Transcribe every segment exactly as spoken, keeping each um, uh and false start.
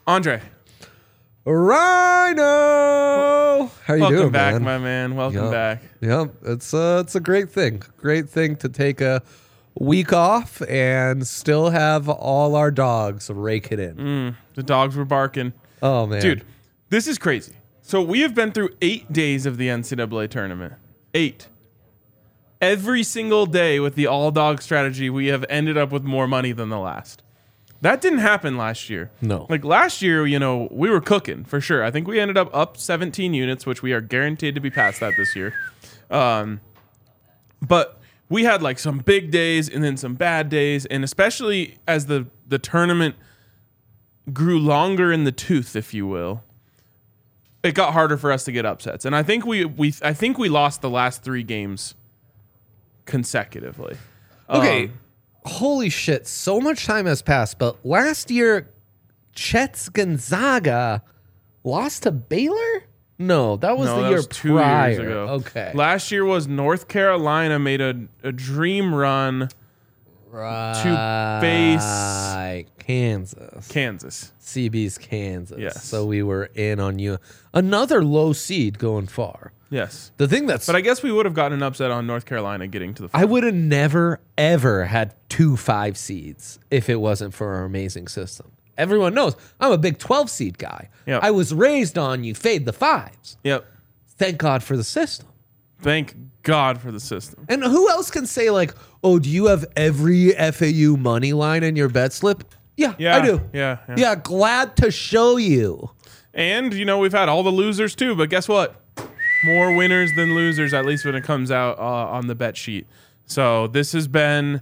Andre. Rhino, how you Welcome doing, back, man? my man. Welcome Yep. back. Yep, it's uh, it's a great thing. Great thing to take a week off and still have all our dogs rake it in. Mm, the dogs were barking. Oh man, Dude, this is crazy. So we have been through eight days of the N C double A tournament. Eight. Every single day with the all-dog strategy, we have ended up with more money than the last. That didn't happen last year. No. Like last year, you know, we were cooking for sure. I think we ended up up seventeen units, which we are guaranteed to be past that this year. Um, but we had like some big days and then some bad days, and especially as the the tournament grew longer in the tooth, if you will, it got harder for us to get upsets. And I think we we I think we lost the last three games consecutively. okay. Um, Holy shit! So much time has passed, but last year, Chet's Gonzaga lost to Baylor. No, that was no, the that year was two prior. years ago. Okay, Last year was North Carolina made a, a dream run right. face Kansas. Kansas. C B's Kansas. Yes. So we were in on you. Another low seed going far. Yes. The thing that's But I guess we would have gotten an upset on North Carolina getting to the I final. would have never, ever had two five seeds if it wasn't for our amazing system. Everyone knows I'm a big twelve seed guy. Yep. I was raised on you fade the fives. Yep. Thank God for the system. Thank God for the system. And who else can say, like, oh, do you have every F A U money line in your bet slip? Yeah, Yeah, I do. yeah, yeah. Yeah, glad to show you. And, you know, we've had all the losers too, but guess what? More winners than losers, at least when it comes out uh, on the bet sheet. So this has been,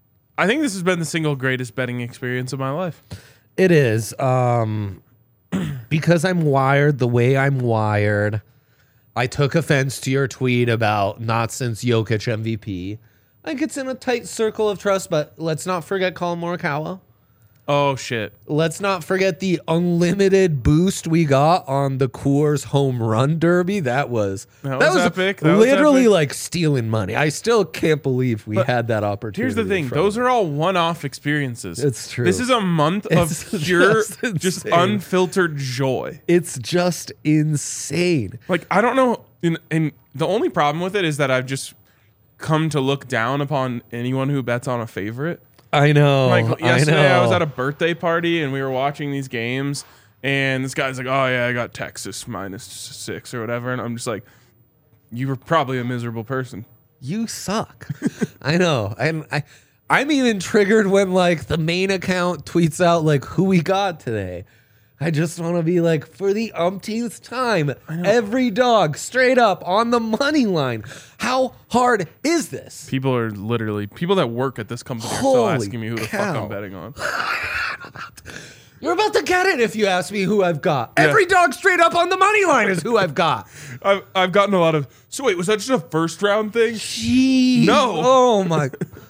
I think this has been the single greatest betting experience of my life. It is. Um, because I'm wired the way I'm wired, I took offense to your tweet about not since Jokic M V P. I think it's in a tight circle of trust, but let's not forget Colin Morikawa. Oh, shit. Let's not forget the unlimited boost we got on the Coors Home Run Derby. That was That was epic. That was literally epic. like stealing money. I still can't believe we But had that opportunity. Here's the thing. from Those it. are all one-off experiences. It's true. This is a month It's of pure, just just, insane. unfiltered joy. It's just insane. Like, I don't know. And, and the only problem with it is that I've just come to look down upon anyone who bets on a favorite. I know. Like yesterday, I, I, know. was at a birthday party and we were watching these games, and this guy's like, "Oh yeah, I got Texas minus six or whatever," and I'm just like, "You were probably a miserable person." You suck. I know. And I, I'm even triggered when like the main account tweets out like who we got today. I just want to be like, for the umpteenth time, every dog straight up on the money line. How hard is this? People are literally people that work at this company are still Holy asking me who the fuck cow. I'm betting on. You're about to get it if you ask me who I've got. Every dog straight up on the money line is who I've got. I've I've gotten a lot of. So wait, was that just a first round thing? Jeez. No. Oh my.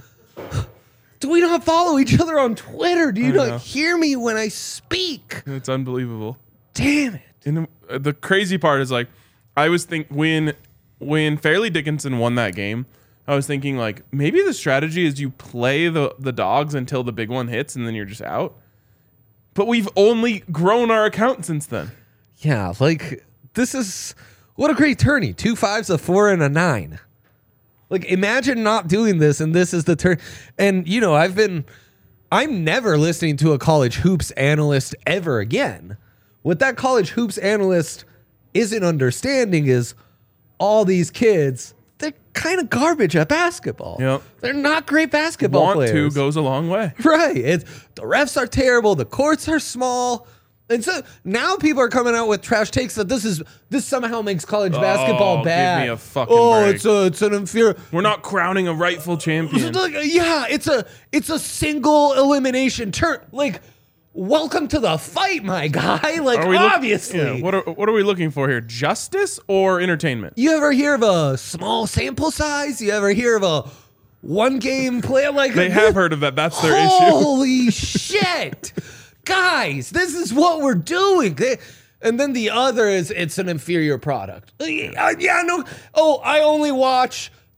Do we not follow each other on Twitter? Do you I not know. hear me when I speak? It's unbelievable. Damn it. And the, the crazy part is like, I was think when when Fairleigh Dickinson won that game, I was thinking like maybe the strategy is you play the the dogs until the big one hits and then you're just out. But we've only grown our account since then. Yeah, like this is what a great tourney. Two fives, a four, and a nine. Like imagine not doing this, and this is the turn. And you know, I've been, I'm never listening to a college hoops analyst ever again. What that college hoops analyst isn't understanding is all these kids, they're kind of garbage at basketball. Yep. They're not great basketball Want players. to goes a long way. Right. It's, the refs are terrible. The courts are small. And so now people are coming out with trash takes that this is this somehow makes college basketball give bad. me a fucking oh, break. it's a it's an inferior. We're not crowning a rightful champion. Like, yeah, it's a it's a single elimination turn. Like, welcome to the fight, my guy. Like, Are we look- obviously. yeah, what are what are we looking for here? Justice or entertainment? You ever hear of a small sample size? You ever hear of a one game play? Like They have heard of that. That's their issue. Holy shit. Guys, this is what we're doing. They, and then the other is it's an inferior product. Uh, Yeah, no. Oh, I only watch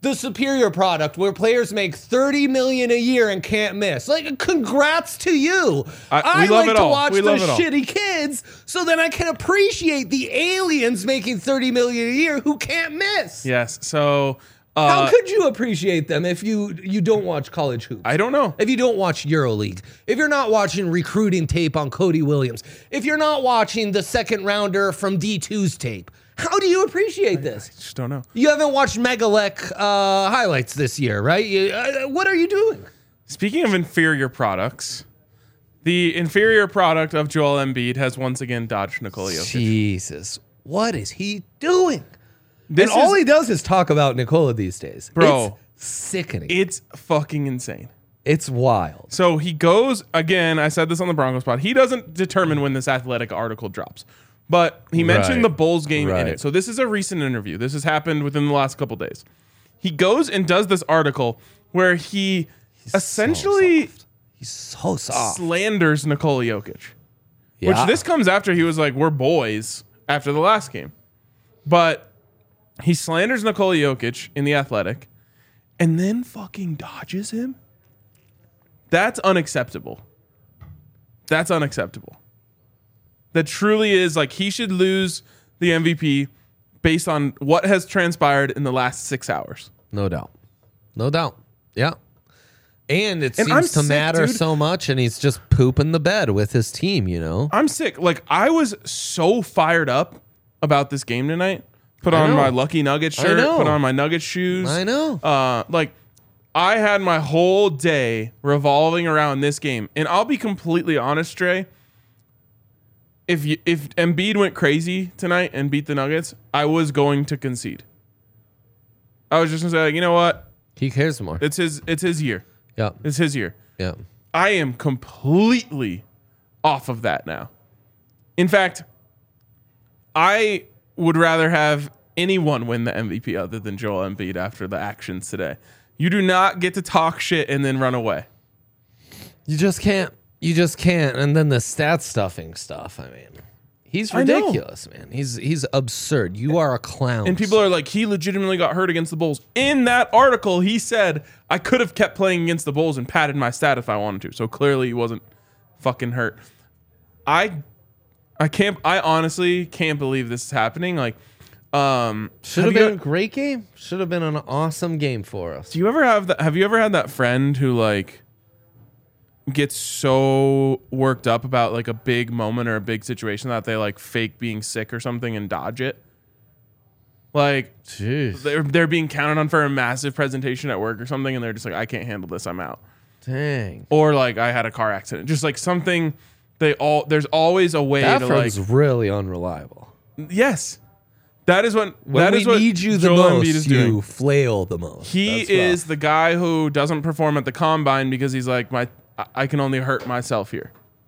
the superior product where players make thirty million a year and can't miss. Like, congrats to you. I- I, we love like it to all. watch We the love it all. shitty kids so then I can appreciate the aliens making thirty million a year who can't miss. Yes. So How uh, could you appreciate them if you you don't watch college hoops? I don't know. If you don't watch EuroLeague, if you're not watching recruiting tape on Cody Williams, if you're not watching the second rounder from D two's tape, how do you appreciate this? I just don't know. You haven't watched Megalek uh, highlights this year, right? You, uh, what are you doing? Speaking of inferior products, the inferior product of Joel Embiid has once again dodged Nikola Jokic. Jesus, what is he doing? This and all is- he does is talk about Nikola these days. Bro. It's sickening. It's fucking insane. It's wild. So he goes again. I said this on the Broncos pod. He doesn't determine when this Athletic article drops, but he mentioned Right. the Bulls game in Right. it. So this is a recent interview. This has happened within the last couple days. He goes and does this article where he essentially So soft. He's so soft. slanders Nikola Jokic, Yeah. which this comes after he was like, "We're boys" after the last game, but he slanders Nikola Jokic in the Athletic, and then fucking dodges him. That's unacceptable. That's unacceptable. That truly is like he should lose the M V P based on what has transpired in the last six hours. No doubt. No doubt. Yeah. And it And seems I'm to sick, matter dude. so much, and he's just pooping the bed with his team, you know? I'm sick. Like I was so fired up about this game tonight. Put I on know. my Lucky Nugget I shirt. know. Put on my Nugget shoes. I know. Uh, like I had my whole day revolving around this game, and I'll be completely honest, Trey. If you, if Embiid went crazy tonight and beat the Nuggets, I was going to concede. I was just gonna say, like, you know what? He cares more. It's his. It's his year. Yeah. It's his year. Yeah. I am completely off of that now. In fact, I would rather have anyone win the M V P other than Joel Embiid after the actions today. You do not get to talk shit and then run away. You just can't. You just can't. And then the stat stuffing stuff. I mean, he's I know. ridiculous, man. He's he's absurd. You are a clown. And people are like, he legitimately got hurt against the Bulls. In that article, he said, I could have kept playing against the Bulls and padded my stat if I wanted to. So clearly he wasn't fucking hurt. I I can't I honestly can't believe this is happening. Like, um should have you- been a great game. Should have been an awesome game for us. Do you ever have that? Have you ever had that friend who like gets so worked up about like a big moment or a big situation that they like fake being sick or something and dodge it? Like Jeez. they're they're being counted on for a massive presentation at work or something, and they're just like, I can't handle this, I'm out. Dang. Or like I had a car accident, just like something. They all there's always a way That to like friend's really unreliable. yes, that is what When that we is what need you the Joel Embiid most, is you doing. flail the most. He That's is rough. the guy who doesn't perform at the combine because he's like, my I- I can only hurt myself here.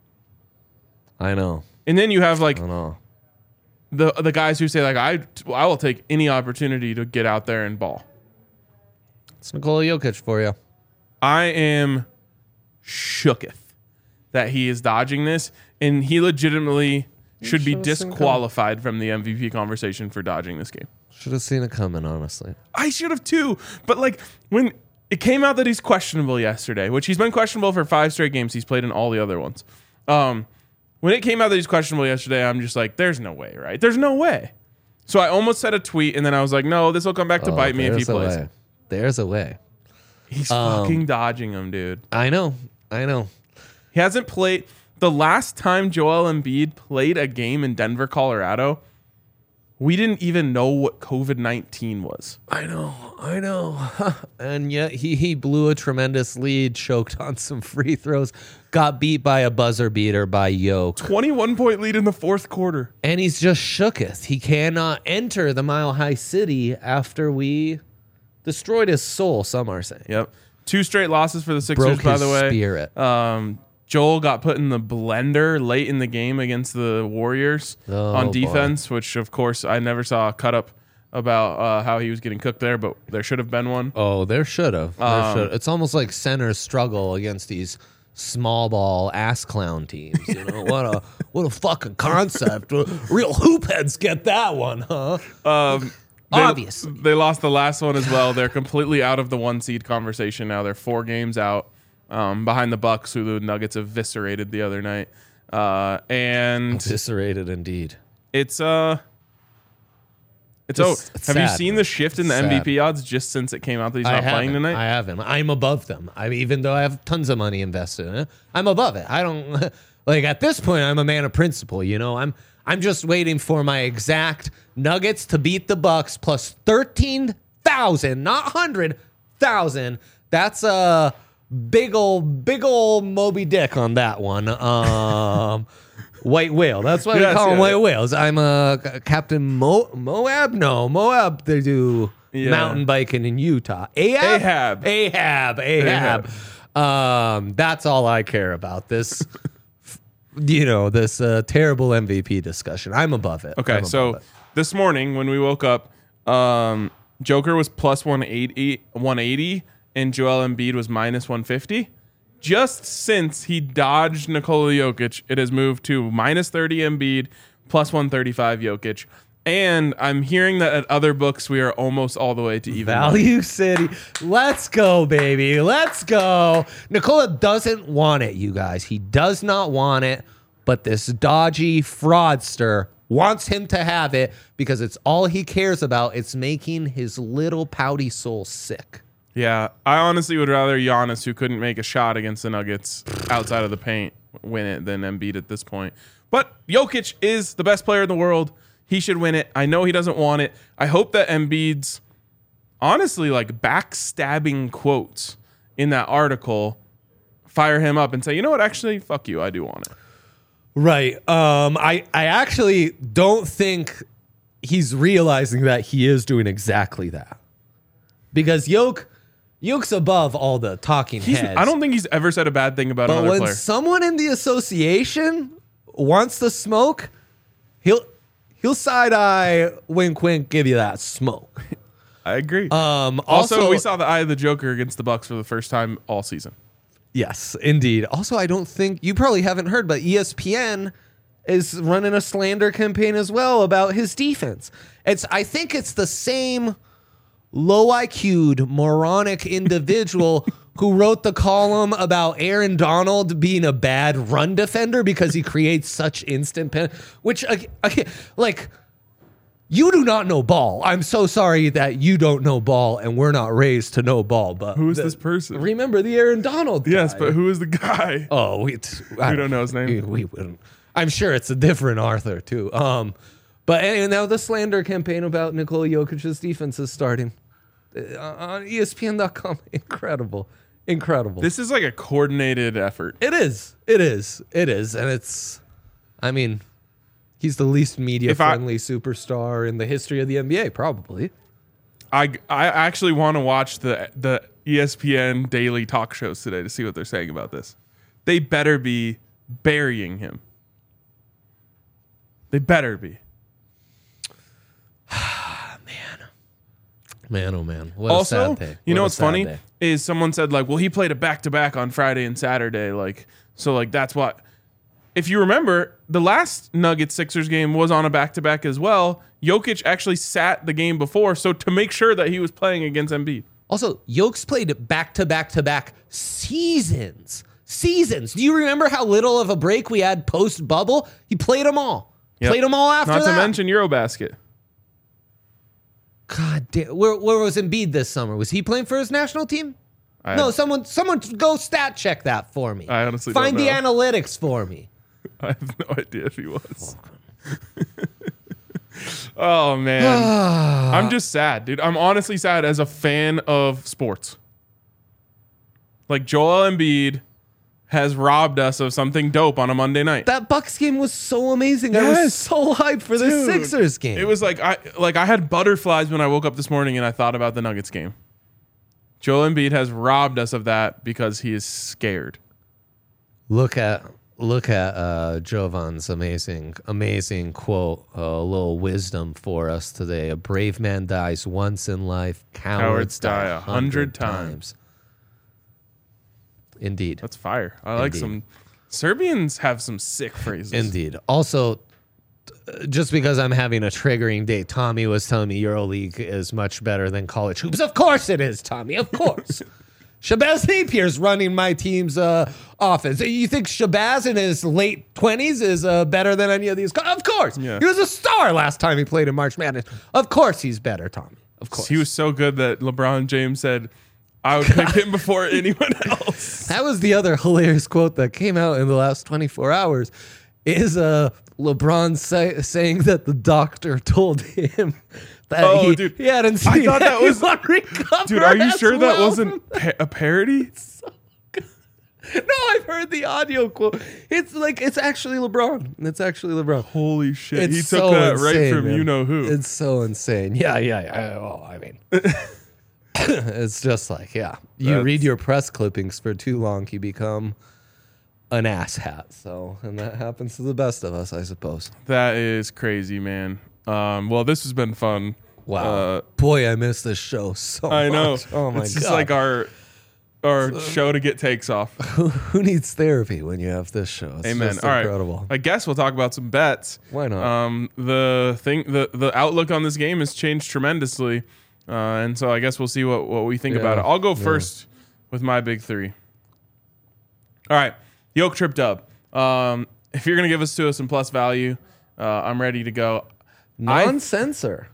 I know. And then you have like I know. the the guys who say like I I will take any opportunity to get out there and ball. It's Nikola Jokic for you. I am shooketh that he is dodging this, and he legitimately should be should've seen disqualified from the M V P conversation for dodging this game. Should have seen it coming, honestly. I should have too, but like when it came out that he's questionable yesterday, which he's been questionable for five straight games, he's played in all the other ones. Um, when it came out that he's questionable yesterday, I'm just like, there's no way, right? There's no way. So I almost said a tweet, and then I was like, no, this will come back to Oh, bite me if he there's a plays. way. There's a way. He's Um, fucking dodging him, dude. I know. I know. He hasn't played. The last time Joel Embiid played a game in Denver, Colorado, we didn't even know what COVID nineteen was. I know. I know. And yet he, he blew a tremendous lead, choked on some free throws, got beat by a buzzer beater by Yoke. twenty-one point lead in the fourth quarter. And he's just shooketh. He cannot enter the Mile High City after we destroyed his soul, some are saying. Yep. Two straight losses for the Sixers, Broke by his the way. spirit. Um, Joel got put in the blender late in the game against the Warriors Oh, on boy. defense, which, of course, I never saw a cut up about uh, how he was getting cooked there, but there should have been one. Oh, there should have. There Um, should. It's almost like centers struggle against these small ball ass clown teams. You know what a what a fucking concept. Real hoop heads get that one, huh? Um, They, Obviously. They lost the last one as well. They're completely out of the one seed conversation now. They're four games out um, behind the Bucks, who the Nuggets eviscerated the other night. Uh, and Eviscerated indeed. it's uh it's, It's- oh it's have you sad, seen man. the shift in the Sad. M V P odds just since it came out that he's I not haven't. playing tonight? I haven't. I'm above them. I mean, even though I have tons of money invested in it, I'm above it. I don't like at this point. I'm a man of principle. You know, I'm I'm just waiting for my exact Nuggets to beat the Bucks plus thirteen thousand, not hundred thousand. That's a big old big old Moby Dick on that one. Um. White whale. That's why Yes, we call them yeah, white yeah. whales. I'm a uh, Captain Mo- Moab. No, Moab. They do Yeah. mountain biking in Utah. Ahab. Ahab. Ahab. Ahab. Um, that's all I care about. This, you know, this uh, terrible M V P discussion. I'm above it. Okay, I'm so above it. this morning when we woke up, um, Joker was plus one eighty, one eighty, and Joel Embiid was minus one fifty. Just since he dodged Nikola Jokic, it has moved to minus thirty Embiid, plus one thirty-five Jokic. And I'm hearing that at other books, we are almost all the way to even. money. Value City. Let's go, baby. Let's go. Nikola doesn't want it, you guys. He does not want it, but this dodgy fraudster wants him to have it because it's all he cares about. It's making his little pouty soul sick. Yeah, I honestly would rather Giannis, who couldn't make a shot against the Nuggets outside of the paint, win it than Embiid at this point. But Jokic is the best player in the world. He should win it. I know he doesn't want it. I hope that Embiid's honestly like backstabbing quotes in that article fire him up and say, you know what, actually, fuck you. I do want it. Right. Um, I, I actually don't think he's realizing that he is doing exactly that. Because Yoke, Yoke's above all the talking He's, heads. I don't think he's ever said a bad thing about But another when player. someone in the association wants the smoke, he'll he'll side eye, wink, wink, give you that smoke. I agree. Um, also, also, we saw the eye of the Joker against the Bucks for the first time all season. yes, indeed. Also, I don't think you probably haven't heard, but E S P N is running a slander campaign as well about his defense. It's I think it's the same low I Q'd moronic individual who wrote the column about Aaron Donald being a bad run defender because he creates such instant pen, which ag- again, like you do not know ball. I'm so sorry that you don't know ball and we're not raised to know ball. But Who is the- this person? Remember the Aaron Donald? Yes, guy. but who is the guy? Oh, we, I We don't know his name. We, we wouldn't. I'm sure it's a different Arthur too. Um, but and now the slander campaign about Nikola Jokic's defense is starting uh, on E S P N dot com. Incredible, incredible. This is like a coordinated effort. it is. It is. It is, and it's. I mean, he's the least media If I- friendly superstar in the history of the N B A, probably. I, I actually want to watch the the E S P N daily talk shows today to see what they're saying about this. They better be burying him. They better be. Man, oh man! What Also, a sad day. you know What a what's sad funny day. is someone said like, well, he played a back to back on Friday and Saturday, like so like that's what. If you remember, the last Nuggets Sixers game was on a back to back as well. Jokic actually sat the game before, so to make sure that he was playing against Embiid. Also, Yokes played back to back to back seasons. Seasons. Do you remember how little of a break we had post bubble? He played them all. Yep. Played them all after Not that. to mention Eurobasket. God damn. Where, where was Embiid this summer? Was he playing for his national team? I, no, someone someone go stat check that for me. I honestly Find don't the know. analytics for me. I have no idea if he was. Oh man, I'm just sad, dude. I'm honestly sad as a fan of sports. Like Joel Embiid has robbed us of something dope on a Monday night. That Bucks game was so amazing. I was Yes. so hyped for the Dude, Sixers game. It was like I like I had butterflies when I woke up this morning and I thought about the Nuggets game. Joel Embiid has robbed us of that because he is scared. Look at look at uh, Jovan's amazing amazing quote, a little wisdom for us today. A brave man dies once in life, cowards, Cowards die die a a hundred hundred times. times. Indeed, That's fire. I like Indeed. some Serbians have some sick phrases. indeed. Also, just because I'm having a triggering day. Tommy was telling me EuroLeague is much better than college hoops. Of course it is, Tommy. Of course. Shabazz Napier's running my team's uh, offense. You think Shabazz in his late twenties is uh, better than any of these? Of course. Yeah. He was a star last time he played in March Madness. Of course he's better, Tommy. Of course. He was so good that LeBron James said, I would pick him before anyone else. That was the other hilarious quote that came out in the last twenty-four hours is uh, LeBron say, saying that the doctor told him that Oh, he, dude. he hadn't seen I thought that was- anyone recover Dude, are you as sure that well wasn't pa- a parody? No, I've heard the audio quote. It's like it's actually LeBron. It's actually LeBron. Holy shit. It's he took so that right insane, from man. you know who. It's so insane. Yeah, yeah, yeah. Well, I mean, it's just like, yeah. You That's- read your press clippings for too long, you become an asshat. So, and that happens to the best of us, I suppose. That is crazy, man. Um, well, this has been fun. Wow. Uh, Boy, I miss this show so I know. much. Oh my it's god. just like our our show to get takes off. who, who needs therapy when you have this show? It's Amen. just All right. incredible. I guess we'll talk about some bets. Why not? Um, the thing, the the outlook on this game has changed tremendously, uh, and so I guess we'll see what what we think Yeah. about it. I'll go Yeah. first with my big three. All right, Yoke trip dub. Um, if you're gonna give us to us some plus value, uh, I'm ready to go. I- Non-censor.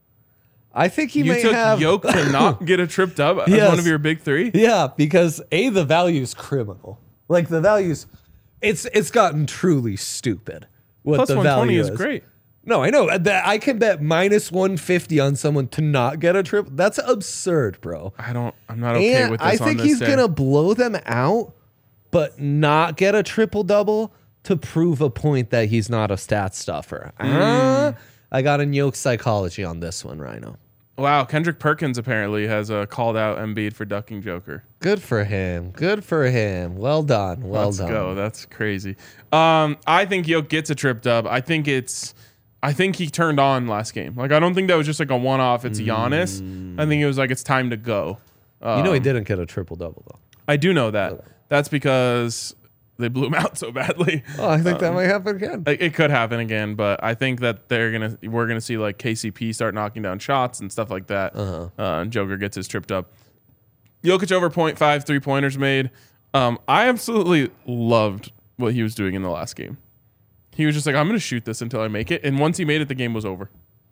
I think he You may took have Yoke to not get a trip dub as Yes. one of your big three. Yeah, because A, the value's criminal. Like the values, it's it's gotten truly stupid. What Plus the one twenty value is great. No, I know that I can bet minus one fifty on someone to not get a trip. That's absurd, bro. I don't. I'm not okay And with this. I on think this he's day. gonna blow them out, but not get a triple double to prove a point that he's not a stat stuffer. Hmm. Ah, I got a Yoke psychology on this one, Rhino. Wow, Kendrick Perkins apparently has uh, called out Embiid for ducking Joker. Good for him. Good for him. Well done. Well Let's done. go. That's crazy. Um, I think Yoke gets a trip dub. I think it's. I think he turned on last game. Like I don't think that was just like a one off. It's Giannis. I think it was like it's time to go. Um, You know he didn't get a triple double though. I do know that. That's because they blew him out so badly. Oh, I think that Um, might happen again. Like, it could happen again, but I think that they're gonna we're gonna see like K C P start knocking down shots and stuff like that. Uh-huh. Uh, and Joker gets his tripped up. Jokic over point five three pointers made. Um, I absolutely loved what he was doing in the last game. He was just like, I'm gonna shoot this until I make it, and once he made it, the game was over.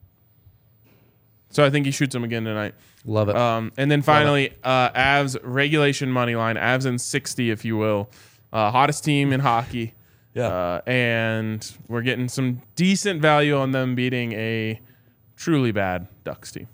So I think he shoots him again tonight. Love it. Um, and then finally, uh, Avs regulation money line, Avs in sixty, if you will, uh, hottest team in hockey. Yeah. Uh, and we're getting some decent value on them beating a truly bad Ducks team.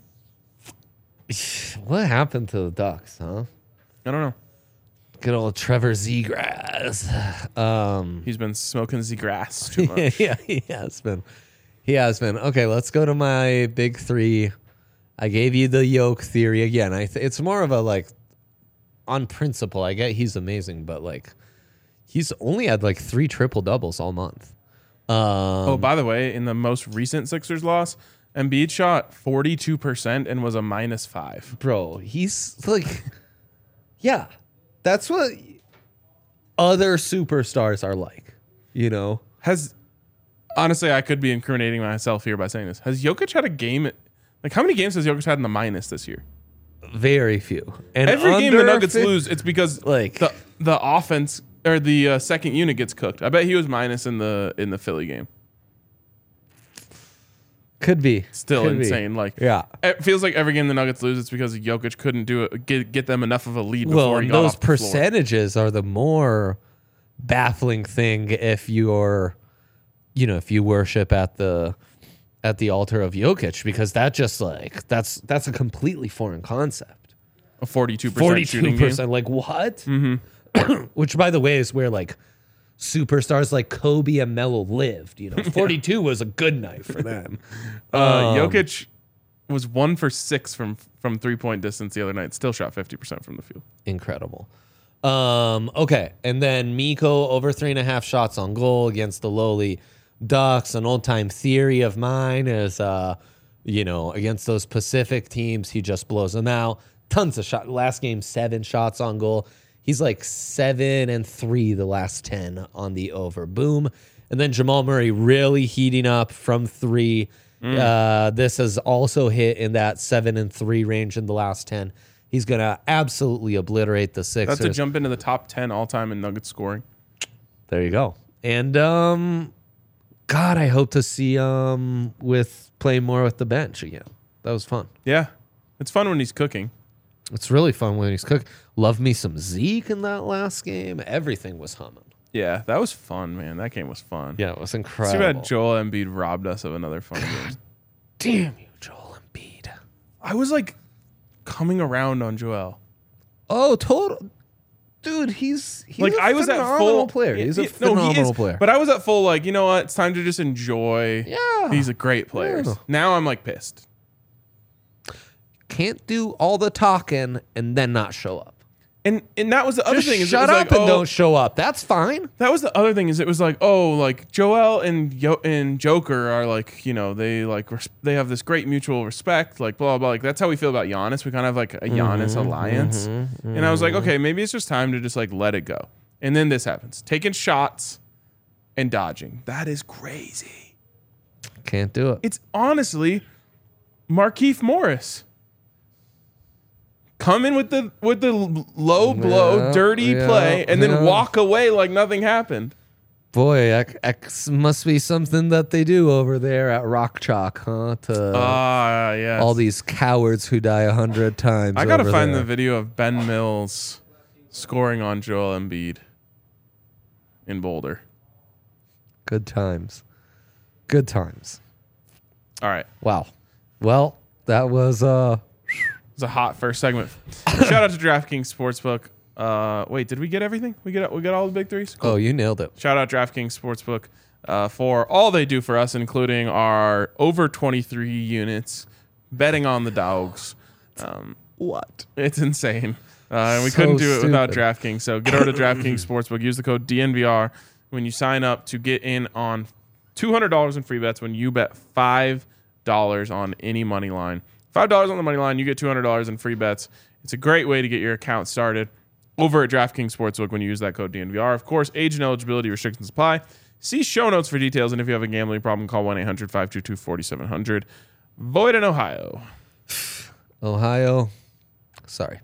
What happened to the Ducks, huh? I don't know. Good old Trevor Zegras. Um, He's been smoking the grass too much. yeah, he has been. He has been. Okay, let's go to my big three. I gave you the Yoke theory again. I th- it's more of a like on principle. I get he's amazing, but like he's only had like three triple doubles all month. Um, Oh, by the way, in the most recent Sixers loss, Embiid shot forty-two percent and was a minus five. bro, he's like, yeah, that's what other superstars are like, you know? Has honestly, I could be incriminating myself here by saying this. Has Jokic had a game? Like, how many games has Jokic had in the minus this year? Very few. And Every game the under Nuggets fi- lose, it's because like- the the offense or the uh, second unit gets cooked. I bet he was minus in the in the Philly game. Could be. Still Could be. insane. Like, Yeah. it feels like every game the Nuggets lose, it's because Jokic couldn't do it, get get them enough of a lead before Well, he and got those off the floor. percentages are the more baffling thing if you're, you know, if you worship at the at the altar of Jokic, because that just like that's that's a completely foreign concept. A forty-two percent Forty-two shooting game. percent, like what? Mm-hmm. Which, by the way, is where like superstars like Kobe and Melo lived. You know, forty-two was a good night for them. Uh, Um, Jokic was one for six from from three point distance the other night. Still shot fifty percent from the field. Incredible. Um, okay, and then Miko over three and a half shots on goal against the lowly Ducks. An old time theory of mine is, uh, you know, against those Pacific teams, he just blows them out. Tons of shots. Last game, seven shots on goal. He's like seven and three the last ten on the over. Boom. And then Jamal Murray really heating up from three. Mm. Uh, this has also hit in that seven and three range in the last ten. He's going to absolutely obliterate the Sixers. That's to jump into the top ten all-time in Nuggets scoring. There you go. And, um, God, I hope to see um with playing more with the bench again. That was fun. Yeah. It's fun when he's cooking. It's really fun when he's cooking. Love me some Zeke in that last game. Everything was humming. Yeah, that was fun, man. That game was fun. Yeah, it was incredible. Too bad Joel Embiid robbed us of another fun game. Damn you, Joel Embiid. I was like coming around on Joel. Oh, total. Dude, he's, he's like a I was at full player. He's a no, phenomenal he is, player. But I was at full like, you know what? It's time to just enjoy. Yeah. These are great players. Yeah. Now I'm like pissed. Can't do all the talking and then not show up. And and that was the other Just thing. Is shut it was up like, and oh, don't show up. That's fine. That was the other thing. Is it was like, oh, like Joel and Yo- and Joker are like, you know, they like res- they have this great mutual respect. Like blah, blah blah. Like that's how we feel about Giannis. We kind of have like a Giannis Mm-hmm, alliance. mm-hmm, and I was like, mm-hmm. okay, maybe it's just time to just like let it go. And then this happens, taking shots and dodging. That is crazy. Can't do it. It's honestly Markieff Morris. Come in with the with the low blow, Yeah, dirty yeah, play, and then yeah. walk away like nothing happened. Boy, X, X must be something that they do over there at Rock Chalk, huh? To Ah, yeah. all these cowards who die a hundred times. I gotta over find there. the video of Ben Mills scoring on Joel Embiid in Boulder. Good times. Good times. All right, Wow. Well, that was uh it's a hot first segment. Shout out to DraftKings Sportsbook. Uh, wait, did we get everything? We get we got all the big threes. Cool. oh, you nailed it. Shout out DraftKings Sportsbook uh, for all they do for us, including our over twenty-three units, betting on the dogs. Um, What? it's insane. Uh, and we So couldn't do it without stupid. DraftKings. So get over to DraftKings Sportsbook. Use the code D N V R when you sign up to get in on two hundred dollars in free bets when you bet five dollars on any money line. five dollars on the money line, you get two hundred dollars in free bets. It's a great way to get your account started over at DraftKings Sportsbook when you use that code D N V R. Of course, age and eligibility restrictions apply. See show notes for details, and if you have a gambling problem, call one eight hundred five two two four seven zero zero. Void in Ohio. Ohio. Sorry.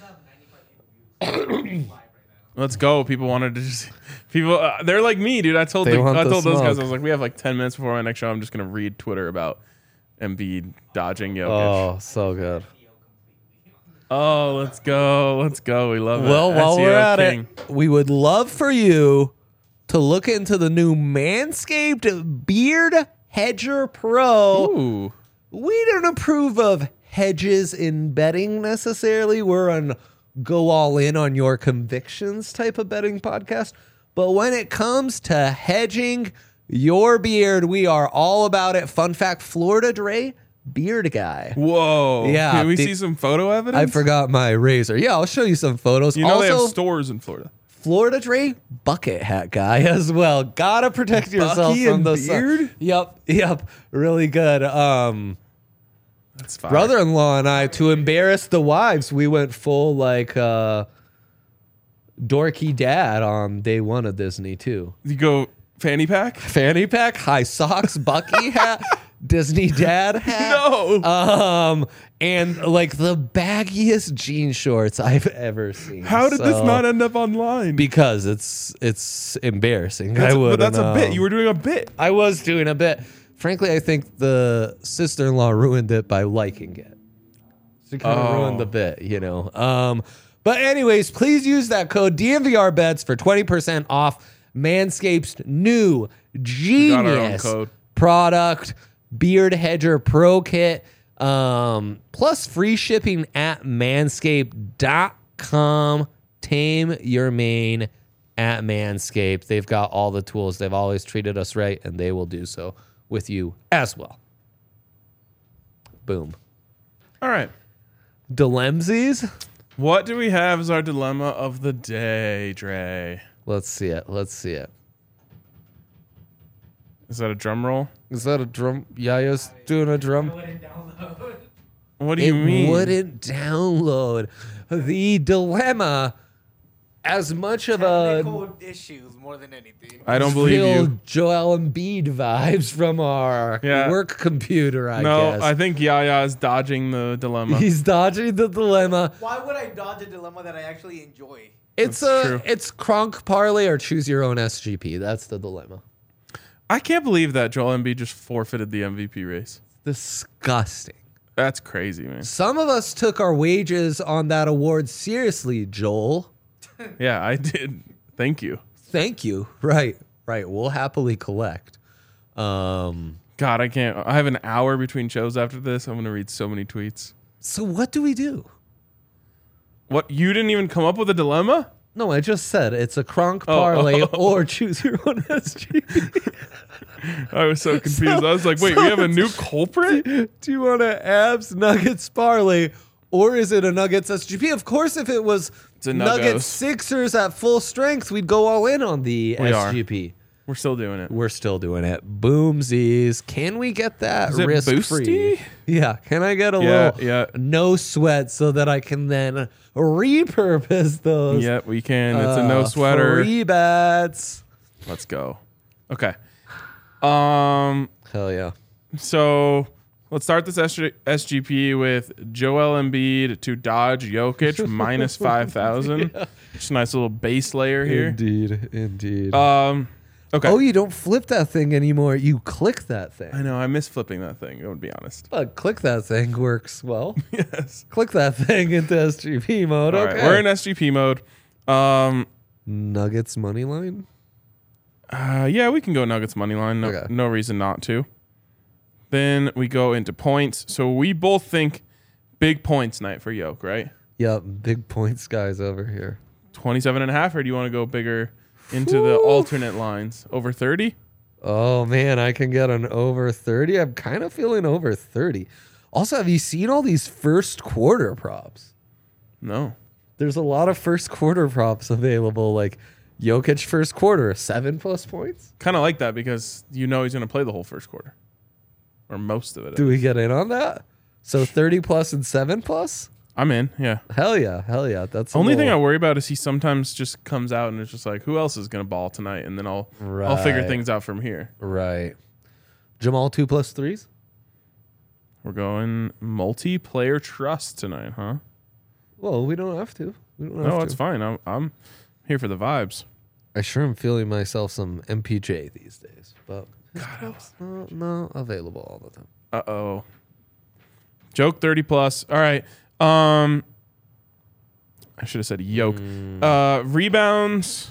Let's go. People wanted to just people. Uh, they're like me, dude. I told They the, want I the told those guys, smoke. I was like, we have like ten minutes before my next show. I'm just gonna read Twitter about Embiid dodging Jokic. Oh, so good. Oh, let's go. Let's go. We love it. Well, while S E O we're at king. it, we would love for you to look into the new Manscaped Beard Hedger Pro. Ooh. We don't approve of hedges in betting necessarily. We're an go all in on your convictions type of betting podcast. But when it comes to hedging your beard, we are all about it. Fun fact, Florida Dre, beard guy. Whoa. Yeah, Can we the- see some photo evidence? I forgot my razor. Yeah, I'll show you some photos. You know they have also, stores in Florida. Florida Dre, bucket hat guy as well. Gotta protect yourself Bucky from and the sun. beard? Yep, yep. Really good. Um That's fine. brother-in-law and I, to embarrass the wives, we went full like uh dorky dad on day one of Disney too. You go fanny pack? Fanny pack, high socks, Bucky hat, Disney dad hat. No. Um and like the baggiest jean shorts I've ever seen. How did this So- not end up online? Because it's it's embarrassing. That's, I would. but that's a bit. You were doing a bit. I was doing a bit. Frankly, I think the sister-in-law ruined it by liking it. She kind of Oh. ruined the bit, you know. Um, but anyways, please use that code D N V R bets for twenty percent off Manscaped's new got our own genius code. product, Beard Hedger Pro Kit, um, plus free shipping at manscaped dot com. Tame your mane at Manscaped. They've got all the tools. They've always treated us right, and they will do so with you as well. Boom. All right. Dilemsies? What do we have as our dilemma of the day, Dre? Let's see it. Let's see it. Is that a drum roll? Is that a drum? Yaya's doing a drum? What do It you mean? wouldn't download. The dilemma as much of a Technical issues more than anything. I don't believe real you. Joel Embiid vibes from our Yeah. work computer, I No, guess. I think Yaya is dodging the dilemma. He's dodging the dilemma. Why would I dodge a dilemma that I actually enjoy? It's That's a true. it's Kronk parlay or choose your own S G P. That's the dilemma. I can't believe that Joel Embiid just forfeited the M V P race. Disgusting. That's crazy, man. Some of us took our wages on that award seriously, Joel. Yeah, I did. Thank you. Thank you. Right, right. We'll happily collect. Um, God, I can't. I have an hour between shows after this. I'm gonna read so many tweets. so what do we do? What? You didn't even come up with a dilemma? No, I just said it's a Kronk Oh, parlay oh, oh. or choose your own S G P. I was so confused. I was like, wait, we have a new culprit? Do you want a abs Nuggets parlay or is it a Nuggets S G P? Of course, if it was It's a Nuggets Nuggos. Sixers at full strength, we'd go all in on the We are. S G P. We're still doing it. We're still doing it. Boomsies. Can we get that Is it risk free? boosty? Yeah. Can I get a Yeah, little yeah. no sweat so that I can then repurpose those? Yeah, we can. It's a uh, no sweater. Free bets. Let's go. Okay. Um. Hell yeah. So let's start this S G P with Joel Embiid to dodge Jokic minus five thousand. Just a nice little base layer here. Indeed. Indeed. Um. Okay. Oh, you don't flip that thing anymore. You click that thing. I know. I miss flipping that thing. I would be honest. But click that thing works well. Yes. Click that thing into S G P mode. All Okay. right. We're in S G P mode. Um. Nuggets money line. Uh. Yeah, we can go Nuggets money line. No, Okay. no reason not to. Then we go into points. So we both think big points night for Yoke, right? Yep. Big points guys over here. twenty-seven and a half, or do you want to go bigger into the Whew. alternate lines? Over thirty? Oh man, I can get an over thirty. I'm kind of feeling over thirty. Also, have you seen all these first quarter props? No. There's a lot of first quarter props available, like Jokic first quarter, seven plus points. Kind of like that because you know he's going to play the whole first quarter. Or most of it. Do we get in on that? So thirty plus and seven plus? I'm in, yeah. Hell yeah, hell yeah. That's a Only thing I little- worry about is he sometimes just comes out and it's just like, who else is going to ball tonight? And then I'll I'll figure Right. things out from here. Right. Jamal two plus threes? We're going multiplayer trust tonight, huh? Well, we don't have to. We don't have No, to. it's fine. I'm, I'm here for the vibes. I sure am feeling myself some M P J these days, but it's not, not available all the time. Uh oh. Joke thirty plus. All right. Um, I should have said yoke. Mm. Uh, rebounds.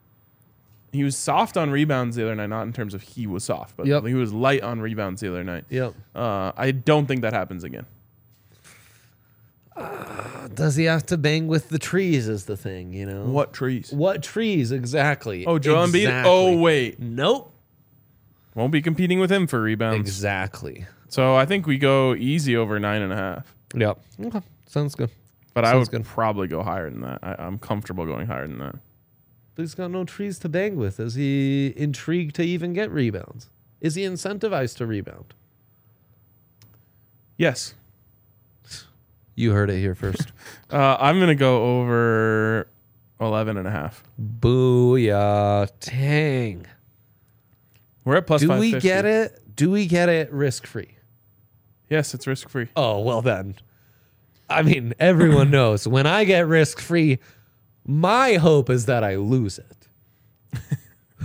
He was soft on rebounds the other night, not in terms of he was soft, but Yep. he was light on rebounds the other night. Yep. Uh, I don't think that happens again. Does he have to bang with the trees is the thing, you know? What trees? What trees exactly? Oh, Joel Embiid. Exactly. Oh wait, Nope. won't be competing with him for rebounds. Exactly. So I think we go easy over nine and a half. Yep. Okay. Sounds good. But I Sounds would good. probably go higher than that. I, I'm comfortable going higher than that. But he's got no trees to bang with. Is he intrigued to even get rebounds? Is he incentivized to rebound? Yes. You heard it here first. Uh, I'm going to go over eleven and a half. Booyah. Dang. We're at plus Do five we fifty. get it? Do we get it risk free? Yes, it's risk free. Oh, well then. I mean, everyone knows when I get risk free, my hope is that I lose it.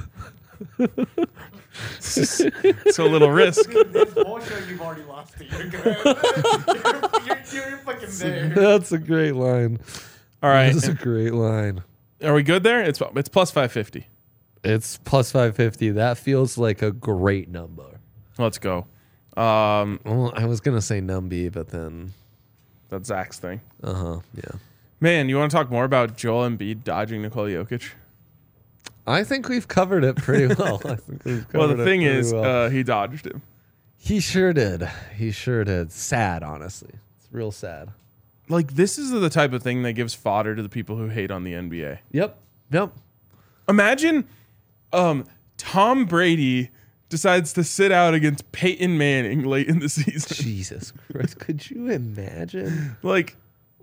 It's a little risk. This whole show you've already lost it. You're good. you're, you're, you're fucking there. That's a great line. All right. That's a great line. Are we good there? It's it's plus five fifty. It's plus five fifty. That feels like a great number. Let's go. Um, Well, I was going to say Numby, but then, that's Zach's thing. uh huh, yeah. Man, you want to talk more about Joel Embiid dodging Nikola Jokic? I think we've covered it pretty well. I think we've covered Well, the it thing pretty is, well. uh, he dodged him. he sure did. He sure did. Sad, honestly. It's real sad. Like, this is the type of thing that gives fodder to the people who hate on the N B A. Yep. Yep. Imagine um, Tom Brady decides to sit out against Peyton Manning late in the season. Jesus Christ. Could you imagine? Like,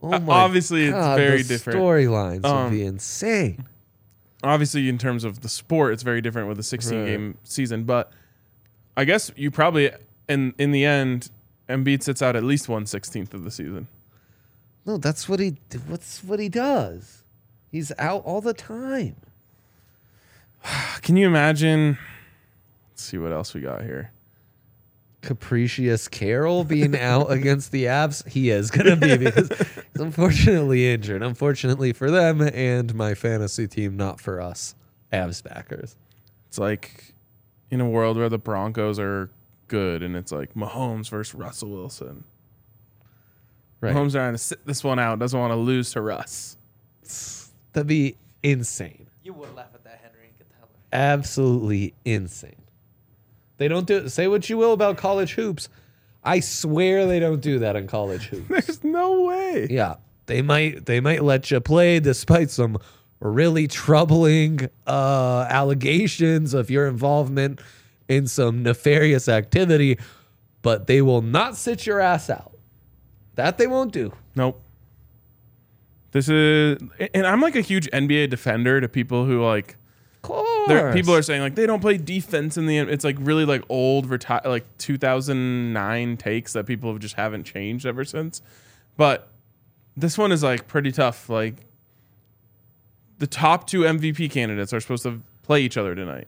Oh Uh, my obviously, it's God, very the different. Storylines Um, would be insane. Obviously, in terms of the sport, it's very different with a sixteen game season. But I guess you probably, in in the end, Embiid sits out at least one sixteenth of the season. No, that's what he. What's what he does? He's out all the time. Can you imagine? Let's see what else we got here. Capricious Carroll being out against the Avs. He is gonna be because he's unfortunately injured. Unfortunately for them and my fantasy team, not for us Avs backers. It's like in a world where the Broncos are good, and it's like Mahomes versus Russell Wilson. Right. Mahomes trying to sit this one out, doesn't want to lose to Russ. That'd be insane. You would laugh at that, Henry. Get the hell out. Absolutely insane. They don't do say what you will about college hoops. I swear they don't do that in college hoops. There's no way. Yeah. They might they might let you play despite some really troubling uh, allegations of your involvement in some nefarious activity, but they will not sit your ass out. That they won't do. Nope. This is, and I'm like a huge N B A defender to people who like, Of course. there, people are saying like they don't play defense in the, it's like really like old, reti- like two thousand nine takes that people have just haven't changed ever since. But this one is like pretty tough. Like the top two M V P candidates are supposed to play each other tonight.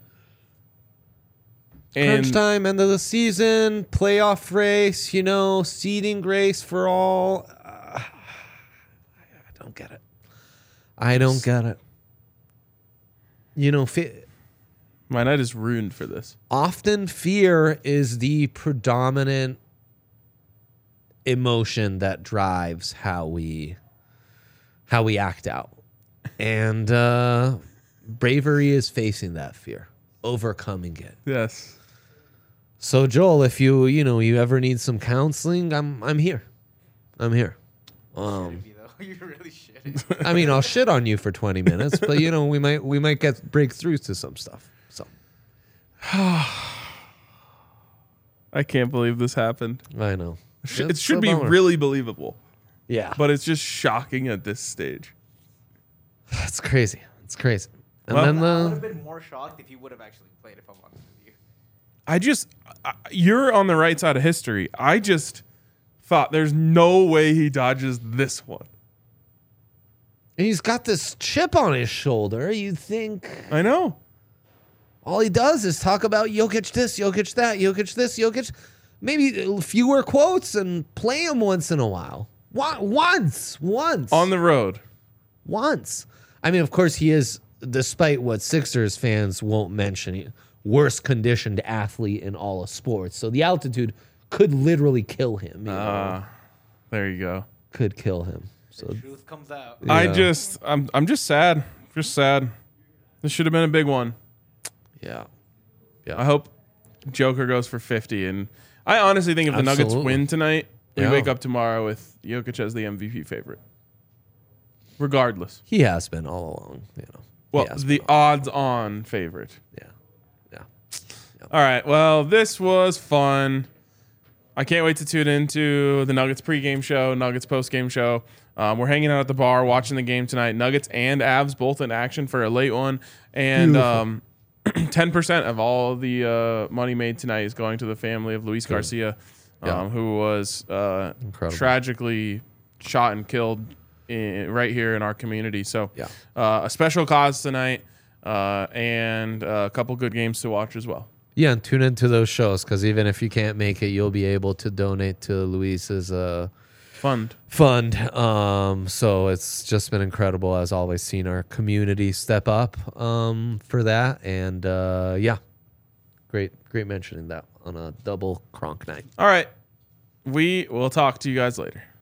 Crunch And time, end of the season, playoff race, you know, seeding race for all. Uh, I don't get it. I don't get it. You know, fi- my night is ruined for this. often fear is the predominant emotion that drives how we how we act out. And uh, bravery is facing that fear, overcoming it. Yes. So Joel, if you you know you ever need some counseling, I'm I'm here. I'm here. Um, You though. You really shitty. I mean, I'll shit on you for twenty minutes, but you know we might we might get breakthroughs to some stuff. So I can't believe this happened. I know Sh- It It's should a be bummer. really believable, yeah, but it's just shocking at this stage. it's crazy. It's crazy. And Well- then I would the have been more shocked if you would have actually played. If I'm honest with you. I just, I, you're on the right side of history. I just thought there's no way he dodges this one. and he's got this chip on his shoulder. You think I know. all he does is talk about Jokic this, Jokic that, Jokic this, Jokic. Maybe fewer quotes and play him once in a while. Wa- Once, once, On the road. once. I mean, of course, he is, despite what Sixers fans won't mention, he- worst conditioned athlete in all of sports. So the altitude could literally kill him. You know? Uh, there you go. Could kill him. So Truth comes out. Yeah. I just, I'm, I'm just sad. Just sad. This should have been a big one. yeah, I hope Joker goes for fifty. And I honestly think if the Nuggets Absolutely. win tonight, we Yeah. wake up tomorrow with Jokic as the M V P favorite. Regardless. he has been all along. You know. He Well, has the been all- odds-on favorite. yeah, yeah. All right. Well, this was fun. I can't wait to tune into the Nuggets pregame show, Nuggets postgame show. Um, we're hanging out at the bar watching the game tonight. Nuggets and Avs both in action for a late one. And um, ten percent of all the uh, money made tonight is going to the family of Luis Garcia, um, Yeah. who was uh, Incredible. tragically shot and killed in, right here in our community. So Yeah. uh, a special cause tonight uh, and a couple good games to watch as well. Yeah, and tune into those shows because even if you can't make it, you'll be able to donate to Luis's uh, Fund. fund. Um, so it's just been incredible, as always, seeing our community step up um, for that. And uh, yeah, great, great mentioning that on a double Kronk night. All right. We will talk to you guys later.